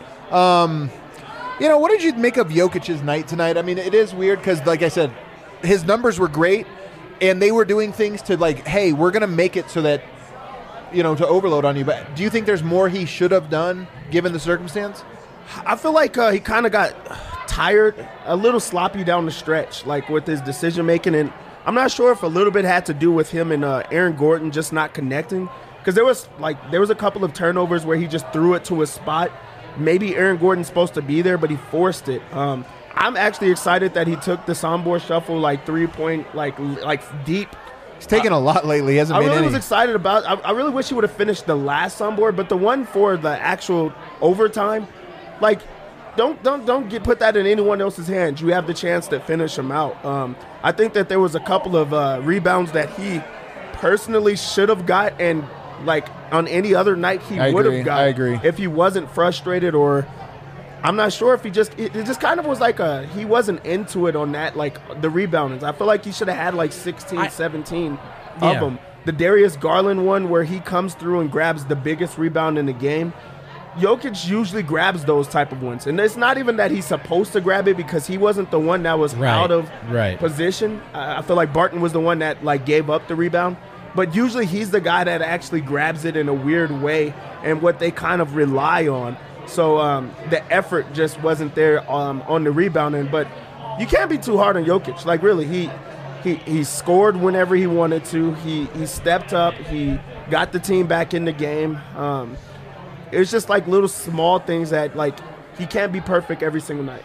B: What did you make of Jokic's night tonight? I mean, it is weird because, like I said, his numbers were great, and they were doing things to like, hey, we're going to make it so that, to overload on you. But do you think there's more he should have done given the circumstance?
D: I feel like he kind of got tired, a little sloppy down the stretch, like with his decision making, and I'm not sure if a little bit had to do with him and Aaron Gordon just not connecting, because there was a couple of turnovers where he just threw it to a spot. Maybe Aaron Gordon's supposed to be there, but he forced it. I'm actually excited that he took the Sombor shuffle like 3-point, like deep.
B: He's taken a lot lately. He hasn't
D: I
B: made
D: really
B: any.
D: was excited about. I really wish he would have finished the last Sombor, but the one for the actual overtime, like, don't put that in anyone else's hands. You have the chance to finish him out. I think that there was a couple of rebounds that he personally should have got, and like on any other night he would have got.
B: I agree.
D: If he wasn't frustrated, or I'm not sure if it just kind of was like he wasn't into it on that, like the reboundings. I feel like he should have had like 16, 17 of them. The Darius Garland one where he comes through and grabs the biggest rebound in the game. Jokic usually grabs those type of ones. And it's not even that he's supposed to grab it, because he wasn't the one that was out of position. I feel like Barton was the one that like gave up the rebound. But usually he's the guy that actually grabs it in a weird way, and what they kind of rely on. So the effort just wasn't there on the rebounding. But you can't be too hard on Jokic. Like, really, he scored whenever he wanted to. He stepped up. He got the team back in the game. It's just like little small things that, like, he can't be perfect every single night.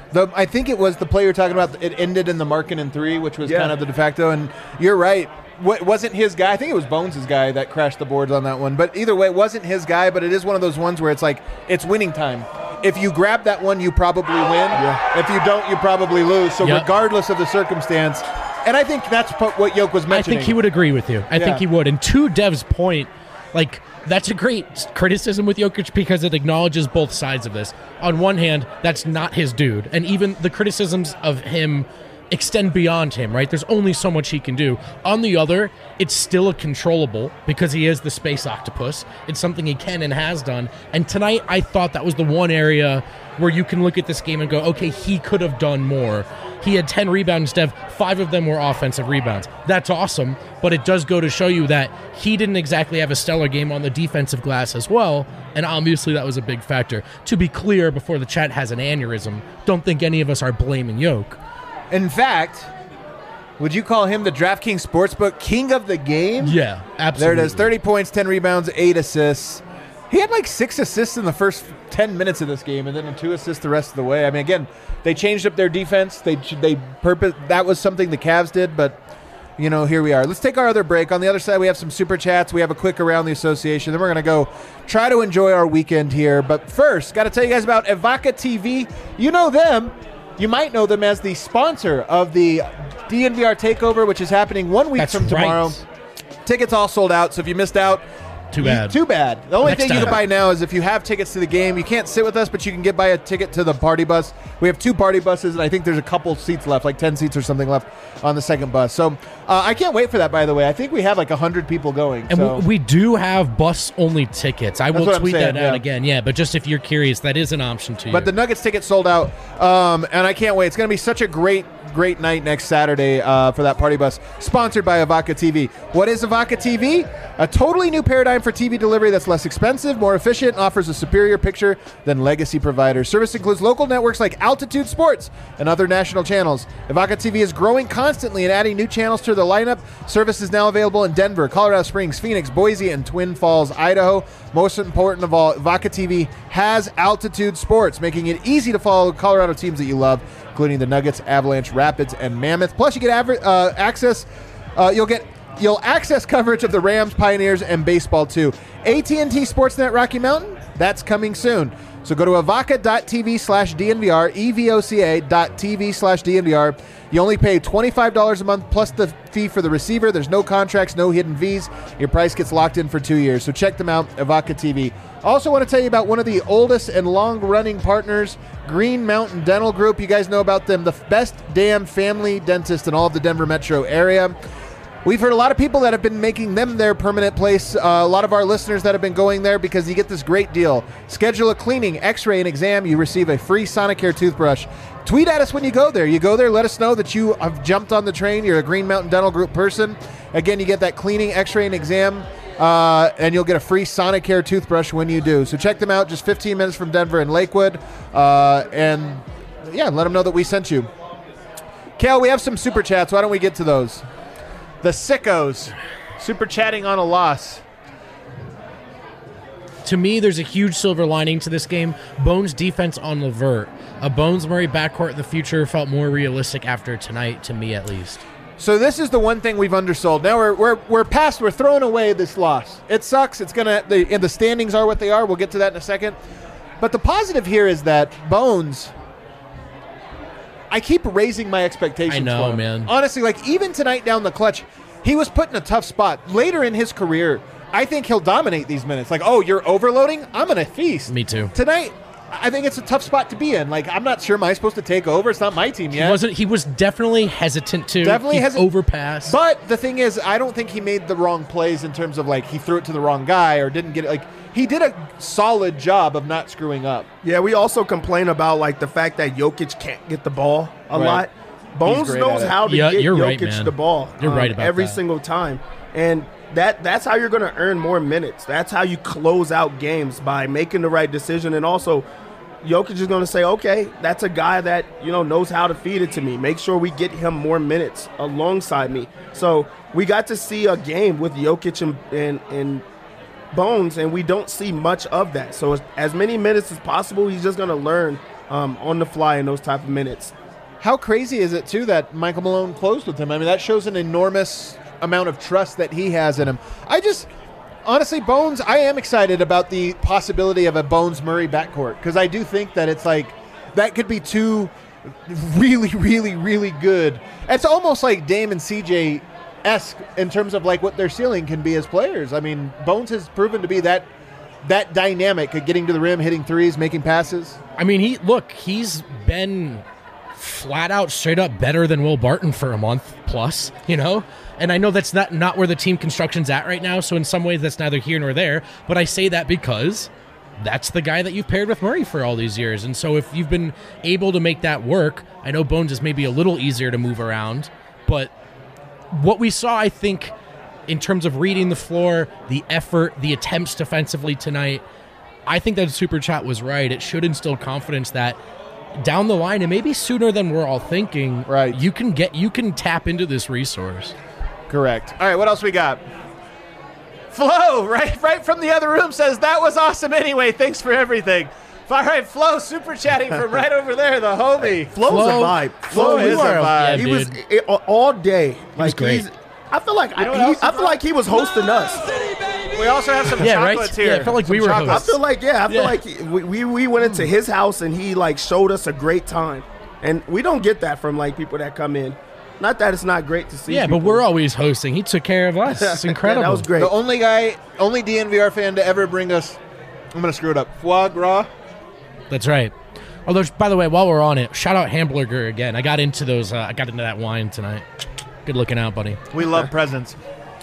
B: I think it was the play you're talking about. It ended in the Markkanen 3, which was
D: Yeah.
B: kind of the de facto. And you're right. It wasn't his guy. I think it was Bones' guy that crashed the boards on that one. But either way, it wasn't his guy. But it is one of those ones where it's like, it's winning time. If you grab that one, you probably win.
D: Yeah.
B: If you don't, you probably lose. So
F: Yep.
B: regardless of the circumstance, and I think that's what Yoke was
F: I
B: mentioning.
F: think he would agree with you. I
B: Yeah.
F: think he would. And to Dev's point, like, that's a great criticism with Jokic because it acknowledges both sides of this. On one hand, that's not his dude. And even the criticisms of him extend beyond him, right? There's only so much he can do. On the other, it's still a controllable because he is the space octopus. It's something he can and has done. And tonight, I thought that was the one area where you can look at this game and go, okay, he could have done more. He had 10 rebounds, Dev. 5 of them were offensive rebounds. That's awesome, but it does go to show you that he didn't exactly have a stellar game on the defensive glass as well, and obviously that was a big factor. To be clear, before the chat has an aneurysm, don't think any of us are blaming Yoke.
B: In fact, would you call him the DraftKings Sportsbook king of the game?
F: Yeah,
B: There
F: absolutely.
B: it is. 30 points, 10 rebounds, 8 assists. He had like 6 assists in the first 10 minutes of this game, and then 2 assists the rest of the way. I mean, again, they changed up their defense. They purpose that was something the Cavs did, but here we are. Let's take our other break. On the other side, we have some super chats. We have a quick around the association. Then we're going to go try to enjoy our weekend here. But first, got to tell you guys about Evoca TV. You know them. You might know them as the sponsor of the DNVR Takeover, which is happening 1 week
F: That's
B: from tomorrow.
F: right.
B: Tickets all sold out, so if you missed out,
F: Too bad.
B: Too bad. The only
F: Next
B: thing you
F: time.
B: can buy now is if you have tickets to the game. You can't sit with us, but you can buy a ticket to the party bus. We have 2 party buses, and I think there's a couple seats left, like 10 seats or something left on the second bus. So I can't wait for that, by the way. I think we have like 100 people going.
F: And
B: so.
F: we do have bus-only tickets. I will
B: what I'm
F: tweet
B: saying,
F: that
B: yeah.
F: out again. Yeah, but just if you're curious, that is an option to you.
B: But the Nuggets ticket sold out, and I can't wait. It's going to be such a great night next Saturday for that party bus, sponsored by Evoca TV. What is Evoca TV? A totally new paradigm for TV delivery that's less expensive, more efficient, and offers a superior picture than legacy providers. Service includes local networks like Altitude Sports and other national channels. Evoca TV is growing constantly and adding new channels to the lineup. Service is now available in Denver, Colorado Springs, Phoenix, Boise, and Twin Falls, Idaho. Most important of all, Evoca TV has Altitude Sports, making it easy to follow Colorado teams that you love, including the Nuggets, Avalanche, Rapids, and Mammoth. Plus, you get access. You'll access coverage of the Rams, Pioneers, and baseball too. AT&T Sportsnet Rocky Mountain, that's coming soon. So go to evoca.tv/DNVR, evoca.tv/DNVR. You only pay $25 a month plus the fee for the receiver. There's no contracts, no hidden fees. Your price gets locked in for 2 years. So check them out, Evoca TV. Also want to tell you about one of the oldest and long-running partners, Green Mountain Dental Group. You guys know about them, the best damn family dentist in all of the Denver metro area. We've heard a lot of people that have been making them their permanent place. A lot of our listeners that have been going there because you get this great deal. Schedule a cleaning, x-ray, and exam. You receive a free Sonicare toothbrush. Tweet at us when you go there. You go there, let us know that you have jumped on the train. You're a Green Mountain Dental Group person. Again, you get that cleaning, x-ray, and exam, and you'll get a free Sonicare toothbrush when you do. So check them out, just 15 minutes from Denver and Lakewood. And yeah, let them know that we sent you. Kale, we have some super chats. Why don't we get to those? The sickos, super chatting on a loss.
F: To me, there's a huge silver lining to this game. Bones' defense on Levert. A Bones-Murray backcourt in the future felt more realistic after tonight, to me at least.
B: So this is the one thing we've undersold. Now we're past. We're throwing away this loss. It sucks. It's gonna. The standings are what they are. We'll get to that in a second. But the positive here is that Bones. I keep raising my expectations.
F: I know,
B: for him.
F: man.
B: Honestly, like even tonight down the clutch, he was put in a tough spot. Later in his career, I think he'll dominate these minutes. Like, oh, you're overloading? I'm gonna feast.
F: Me too.
B: Tonight, I think it's a tough spot to be in. Like, I'm not sure. Am I supposed to take over? It's not my team yet.
F: He was definitely hesitant to.
B: Definitely
F: He
B: hesitant.
F: overpassed.
B: But the thing is, I don't think he made the wrong plays in terms of like he threw it to the wrong guy or didn't get it. Like he did a solid job of not screwing up.
D: Yeah, we also complain about like the fact that Jokic can't get the ball a
B: Right.
D: lot. Bones
B: great
D: knows
B: at it.
D: how to
F: Yeah,
D: get
F: you're
D: Jokic
F: right, man.
D: the ball.
F: You're right about
D: every
F: that.
D: single time, and that's how you're going to earn more minutes. That's how you close out games, by making the right decision. And also, Jokic is going to say, okay, that's a guy that knows how to feed it to me. Make sure we get him more minutes alongside me. So we got to see a game with Jokic and Bones, and we don't see much of that. So as many minutes as possible, he's just going to learn on the fly in those type of minutes.
B: How crazy is it, too, that Michael Malone closed with him? I mean, that shows an enormous amount of trust that he has in him. Honestly, Bones, I am excited about the possibility of a Bones-Murray backcourt because I do think that it's like that could be two really, really, really good. It's almost like Dame and CJ-esque in terms of like what their ceiling can be as players. I mean, Bones has proven to be that dynamic at getting to the rim, hitting threes, making passes.
F: I mean, he's been flat out straight up better than Will Barton for a month plus, and I know that's not where the team construction's at right now, so in some ways that's neither here nor there, but I say that because that's the guy that you've paired with Murray for all these years, and so if you've been able to make that work, I know Bones is maybe a little easier to move around, but what we saw, I think, in terms of reading the floor, the effort, the attempts defensively tonight, I think that Super Chat was right. It should instill confidence that down the line, and maybe sooner than we're all thinking,
B: right,
F: you can tap into this resource.
B: Correct. All right, what else we got? Flo, right from the other room, says, that was awesome anyway. Thanks for everything. All right, Flo, super chatting from right over there, the homie.
D: Flo's a vibe.
B: Flo is a vibe.
F: Yeah,
D: he
F: dude.
D: was all day.
F: Was great.
D: I feel like I feel like he was hosting us.
B: We also have some chocolates here.
F: Yeah, I felt like
B: Some
F: we were
B: chocolates.
D: I feel like we went into his house and he like showed us a great time, and we don't get that from like people that come in. Not that it's not great to see.
F: Yeah,
D: people.
F: but we're always hosting. He took care of us. It's incredible.
D: Yeah, that was great.
B: The only DNVR fan to ever bring us, I'm going to screw it up, foie gras.
F: That's right. Although, by the way, while we're on it, shout out Hamburger again. I got into those. I got into that wine tonight. Good looking out, buddy.
B: We love presents.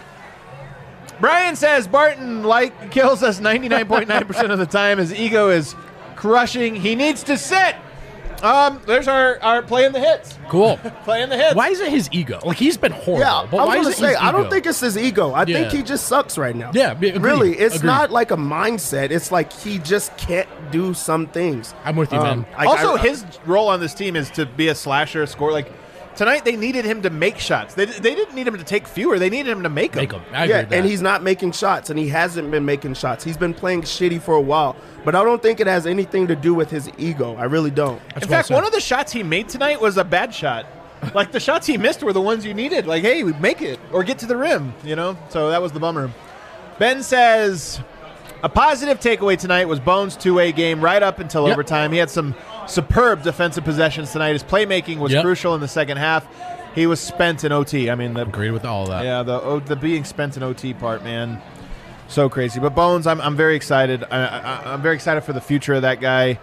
B: Brian says Barton kills us 99.9% of the time. His ego is crushing. He needs to sit. There's our playing the hits.
F: Cool.
B: Playing the hits.
F: Why is it his ego? Like, he's been horrible.
D: Yeah,
F: but
D: I
F: why
D: was
F: is
D: going
F: it
D: to say,
F: his
D: I don't
F: ego?
D: think it's his ego. I
F: Yeah.
D: think he just sucks right now.
F: Yeah, agreed.
D: Really, it's
F: Agreed.
D: not like a mindset. It's like he just can't do some things.
F: I'm with you, man.
B: His role on this team is to be a slasher, a scorer. Like tonight, they needed him to make shots. They didn't need him to take fewer. They needed him to make them.
F: Make him. I agree with that.
D: and he's not making shots, and he hasn't been making shots. He's been playing shitty for a while, but I don't think it has anything to do with his ego. I really don't.
F: That's
B: In
F: well
B: fact,
F: said.
B: one of the shots he made tonight was a bad shot. Like the shots he missed were the ones you needed. Like, hey, make it or get to the rim, So that was the bummer. Ben says a positive takeaway tonight was Bones' two-way game right up until overtime. He had some superb defensive possessions tonight. His playmaking was crucial in the second half. He was spent in OT. I mean,
F: Agreed with all of that.
B: yeah, the being spent in OT part, man, so crazy. But Bones, I'm very excited. I'm very excited for the future of that guy.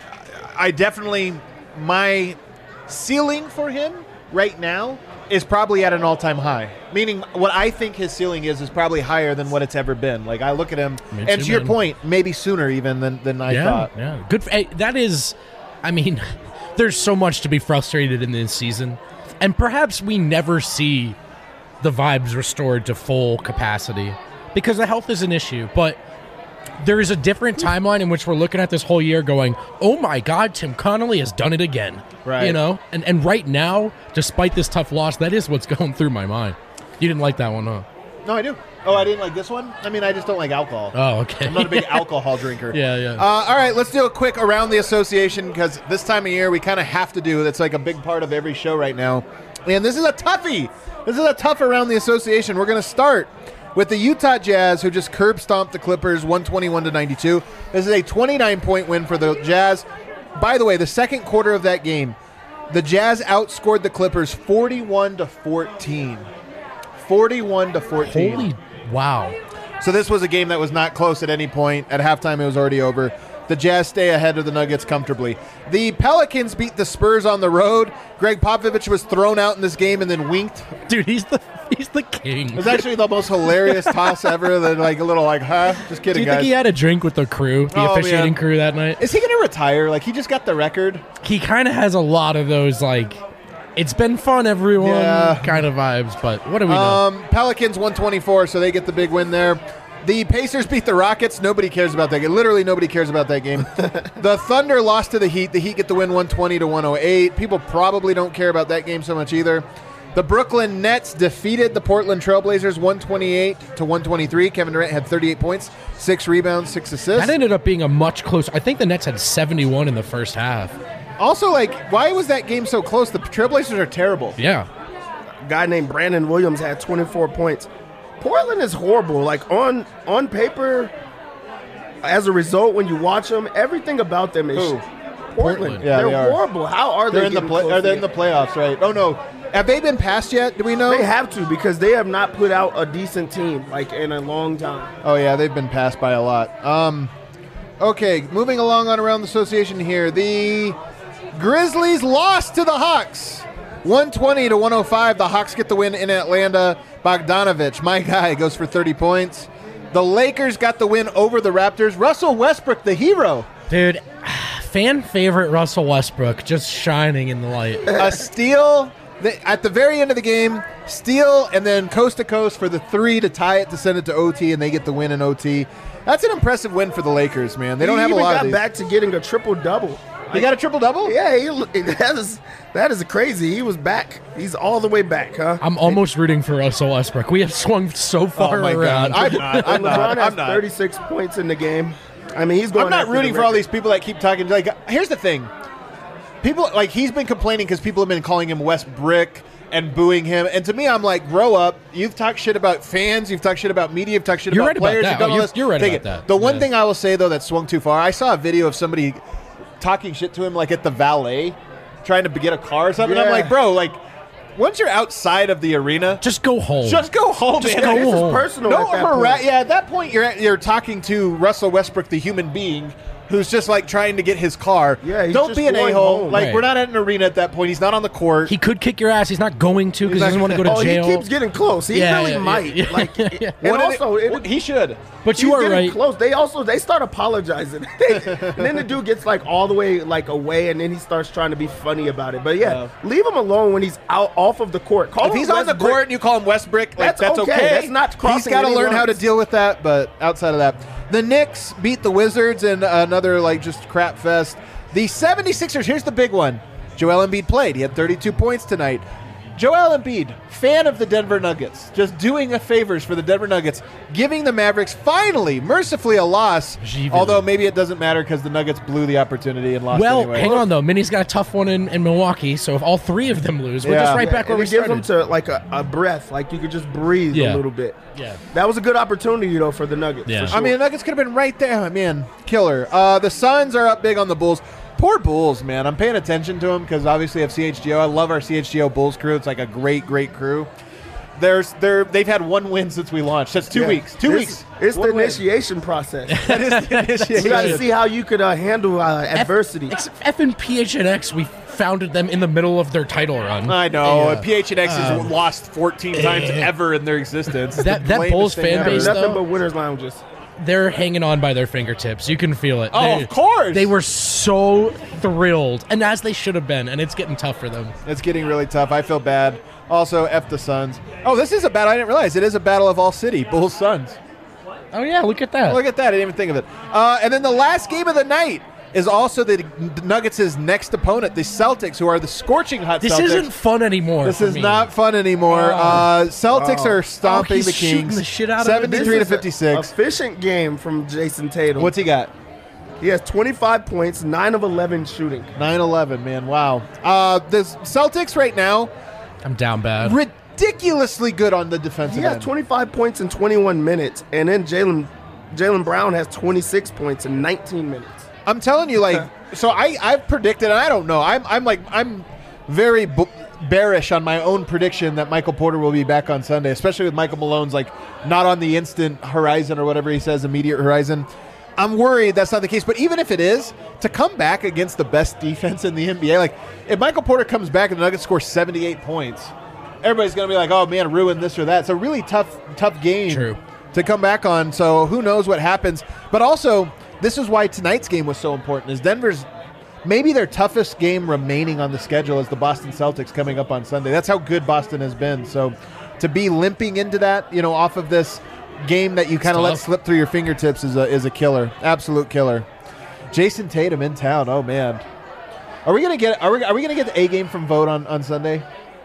B: I definitely, my ceiling for him right now is probably at an all-time high. Meaning, what I think his ceiling is probably higher than what it's ever been. Like I look at him,
F: Me
B: and
F: too,
B: to your
F: man.
B: point, maybe sooner even than I thought.
F: Yeah, good. That is, I mean, there's so much to be frustrated in this season, and perhaps we never see the vibes restored to full capacity because the health is an issue. But there is a different timeline in which we're looking at this whole year, going, "Oh my God, Tim Connolly has done it again."
B: Right.
F: And right now, despite this tough loss, that is what's going through my mind. You didn't like that one, huh?
B: No, I do. Oh, I didn't like this one? I mean, I just don't like alcohol.
F: Oh, okay.
B: I'm not a big alcohol drinker.
F: Yeah.
B: All right, let's do a quick around the association because this time of year we kind of have to do. That's like a big part of every show right now. And this is a toughie. This is a tough around the association. We're going to start with the Utah Jazz, who just curb stomped the Clippers 121-92. This is a 29-point win for the Jazz. By the way, the second quarter of that game, the Jazz outscored the Clippers 41-14. 41-14.
F: Holy wow.
B: So this was a game that was not close at any point. At halftime, it was already over. The Jazz stay ahead of the Nuggets comfortably. The Pelicans beat the Spurs on the road. Greg Popovich was thrown out in this game and then winked.
F: Dude, he's the king.
B: It was actually the most hilarious toss ever. That like a little like, huh? Just kidding,
F: Do you
B: guys.
F: think he had a drink with the crew, the
B: Oh,
F: officiating
B: man.
F: crew that night?
B: Is he going to retire? Like, he just got the record.
F: He kind of has a lot of those, like, it's been fun, everyone
B: Yeah.
F: kind of vibes, but what do we know?
B: Pelicans 124, so they get the big win there. The Pacers beat the Rockets. Nobody cares about that game. Literally nobody cares about that game. The Thunder lost to the Heat. The Heat get the win 120-108. People probably don't care about that game so much either. The Brooklyn Nets defeated the Portland Trailblazers 128-123. Kevin Durant had 38 points, 6 rebounds, 6 assists.
F: That ended up being a much closer. I think the Nets had 71 in the first half.
B: Also, like, why was that game so close? The Trailblazers are terrible.
F: Yeah.
D: A guy named Brandon Williams had 24 points. Portland is horrible. Like, on paper, as a result, when you watch them, everything about them is
B: Who?
D: Portland.
B: Yeah,
D: they're
B: they are.
D: horrible. How are
B: They're
D: they
B: in the
D: getting close
B: are they
D: to
B: in the
D: it?
B: playoffs, right? Oh no, have they been passed yet? Do we know?
D: They have to, because they have not put out a decent team like in a long time.
B: Oh yeah, they've been passed by a lot. Okay, moving along on around the association here. The Grizzlies lost to the Hawks, 120-105. The Hawks get the win in Atlanta. Bogdanovich, my guy, goes for 30 points. The Lakers got the win over the Raptors. Russell Westbrook, the hero.
F: Dude, fan favorite Russell Westbrook just shining in the light.
B: A steal at the very end of the game, steal, and then coast to coast for the 3 to tie it to send it to OT, and they get the win in OT. That's an impressive win for the Lakers, man. They don't have a lot of
D: He
B: these.
D: got back to getting a triple-double.
B: He got a triple-double?
D: Yeah, that is crazy. He was back. He's all the way back, huh?
F: I'm almost rooting for Russell Westbrook. We have swung so far
B: my
F: around.
B: God. I'm
D: LeBron has
B: not.
D: 36 points in the game. I mean, he's going.
B: I'm not
D: after
B: rooting
D: the
B: for all
D: record.
B: these people that keep talking. Like, here's the thing. People, like, he's been complaining because people have been calling him Westbrick and booing him. And to me, I'm like, grow up. You've talked shit about fans. You've talked shit about media. You've talked shit
F: You're
B: about
F: right about
B: players.
F: that.
B: You've done
F: Oh,
B: all
F: you're-
B: this.
F: you're right
B: Take
F: about
B: it.
F: that.
B: The one
F: Yeah.
B: thing I will say, though, that swung too far, I saw a video of somebody talking shit to him, like, at the valet, trying to get a car or something.
D: Yeah.
B: I'm like, bro, like, once you're outside of the arena,
F: Just go home.
B: just go home,
F: Just
B: man.
F: go
D: This is
F: home.
D: personal.
B: No,
D: at that point.
B: yeah. At that point, you're talking to Russell Westbrook, the human being, who's just like trying to get his car.
D: Yeah, he's
B: don't
D: just
B: be an
D: going
B: a-hole.
D: home.
B: Like
F: Right.
B: we're not at an arena at that point. He's not on the court.
F: He could kick your ass. He's not going to because he doesn't want to go to
D: Oh,
F: jail.
D: he keeps getting close. He
F: Yeah,
D: really
F: yeah,
D: might.
F: yeah.
D: Like, and
B: What
D: also,
B: he should.
F: But
D: he's
F: you are
D: getting
F: right.
D: close. They start apologizing. And then the dude gets like all the way like away, and then he starts trying to be funny about it. But yeah, leave him alone when he's out off of the court. Call
B: If
D: him
B: he's on the
D: Westbrook.
B: court and you call him Westbrick, like,
D: That's
B: that's
D: okay.
B: okay.
D: That's not
B: He's
D: crossing
B: got to
D: any
B: learn how to
D: lines.
B: deal with that. But outside of that, the Knicks beat the Wizards in another like just crap fest. The 76ers, here's the big one. Joel Embiid played. He had 32 points tonight. Joel Embiid, fan of the Denver Nuggets, just doing favors for the Denver Nuggets, giving the Mavericks finally, mercifully, a loss.
F: Gee,
B: Although maybe it doesn't matter because the Nuggets blew the opportunity and lost
F: Well,
B: anyway.
F: hang on though. Minnie's got a tough one in Milwaukee, so if all three of them lose, we're
B: Yeah.
F: just right back where
D: and
F: we
D: it gives
F: started.
D: them to like a breath, like you could just breathe
F: Yeah.
D: a little bit.
F: Yeah.
D: That was a good opportunity though for the Nuggets.
F: Yeah.
D: for sure.
B: I mean, the Nuggets could have been right there. Man, killer. The Suns are up big on the Bulls. Poor Bulls, man. I'm paying attention to them because obviously I have CHGO. I love our CHGO Bulls crew. It's like a great, great crew. They've had one win since we launched. That's 2
D: Yeah.
B: weeks. 2 weeks.
D: It's the
B: One win.
D: initiation process.
B: That is the initiation.
D: We got to see how you could handle adversity.
F: F and PHNX, we founded them in the middle of their title run.
B: I know.
F: Yeah.
B: PHNX has lost 14 times ever in their existence.
F: That
B: The
F: Bulls
B: lamest thing
F: fan
B: ever.
F: base,
D: Nothing
F: though?
D: but winners' lounges.
F: They're hanging on by their fingertips. You can feel it.
B: Oh, of course.
F: They were so thrilled, and as they should have been, and it's getting tough for them.
B: It's getting really tough. I feel bad. Also, F the Suns. Oh, this is a battle. I didn't realize. It is a battle of all city. Bulls, Suns.
F: Oh, yeah, look at that.
B: Look at that. I didn't even think of it. And then the last game of the night is also the Nuggets' next opponent, the Celtics, who are the scorching hot
F: This
B: Celtics.
F: isn't fun anymore.
B: This
F: for
B: is
F: me.
B: not fun anymore. Celtics are stomping
F: he's
B: the
F: shooting
B: Kings.
F: the shit out of it.
B: 73 to
D: This is a
B: 56.
D: efficient game from Jason Tatum.
B: What's he got?
D: He has 25 points, 9 of 11 shooting.
B: 9-11, man. Wow. The Celtics right now,
F: I'm down bad.
B: ridiculously good on the defensive
D: He has
B: end.
D: 25 points in 21 minutes, and then Jalen Brown has 26 points in 19 minutes.
B: I'm telling you, like, so I've predicted, and I don't know. I'm very bearish on my own prediction that Michael Porter will be back on Sunday, especially with Michael Malone's like not on the instant horizon or whatever he says, immediate horizon. I'm worried that's not the case. But even if it is, to come back against the best defense in the NBA, like if Michael Porter comes back and the Nuggets score 78 points, everybody's going to be like, oh man, ruin this or that. It's a really tough game
F: True.
B: to come back on. So who knows what happens. But also, this is why tonight's game was so important, is Denver's maybe their toughest game remaining on the schedule is the Boston Celtics coming up on Sunday. That's how good Boston has been. So to be limping into that, off of this game that you kind of let
F: tough.
B: slip through your fingertips is a killer. Absolute killer. Jason Tatum in town. Oh man. Are we gonna get the A game from Vote on Sunday?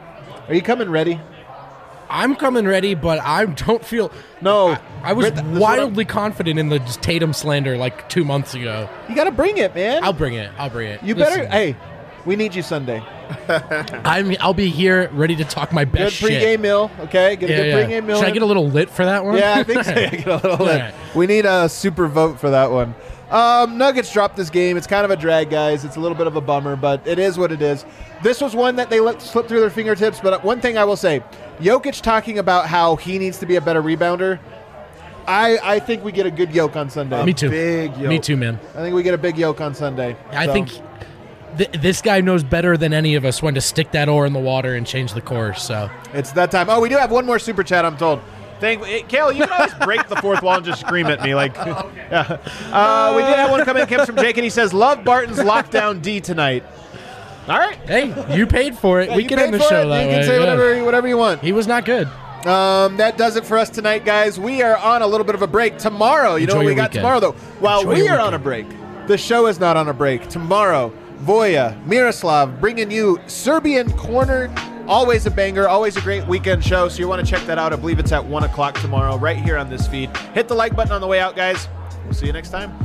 B: Are you coming ready?
F: I'm coming ready, but I don't feel.
B: No.
F: I was
B: This is what
F: wildly confident in the Tatum slander like 2 months ago.
B: You got to bring it, man.
F: I'll bring it.
B: You
F: Listen,
B: better. Hey, we need you Sunday.
F: I'll be here ready to talk my
B: Good
F: best
B: pregame
F: shit.
B: meal. Okay, get a good pregame meal.
F: Should I
B: in.
F: get a little lit for that one?
B: Yeah, I think so. Yeah, get a little lit.
F: All right.
B: We need a super vote for that one. Nuggets dropped this game. It's kind of a drag, guys. It's a little bit of a bummer, but it is what it is. This was one that they let slip through their fingertips, but one thing I will say, Jokic talking about how he needs to be a better rebounder, I think we get a good yoke on Sunday.
F: Me too.
D: Big yoke.
F: Me too, man.
B: I think we get a big yoke on Sunday.
F: I
B: So,
F: think this guy knows better than any of us when to stick that oar in the water and change the course. So
B: it's that time. Oh, we do have one more super chat, I'm told. Kale, you can always break the fourth wall and just scream at me. Like, yeah. We did have one come in, Kim, from Jake, and he says, love Barton's lockdown D tonight. All right.
F: hey, you paid for it.
B: Yeah,
F: we
B: you
F: can
B: paid
F: end the
B: for
F: show
B: it.
F: that
B: You
F: way.
B: can say
F: yeah.
B: whatever you want.
F: He was not good.
B: That does it for us tonight, guys. We are on a little bit of a break. Tomorrow, you know
F: Enjoy
B: what we
F: your
B: got
F: weekend.
B: tomorrow, though? While
F: Enjoy
B: we
F: your
B: are on a break, the show is not on a break. Tomorrow, Voya, Miroslav bringing you Serbian Corner. Always a banger, always a great weekend show. So you want to check that out. I believe it's at 1 o'clock tomorrow, right here on this feed. Hit the like button on the way out, guys. We'll see you next time.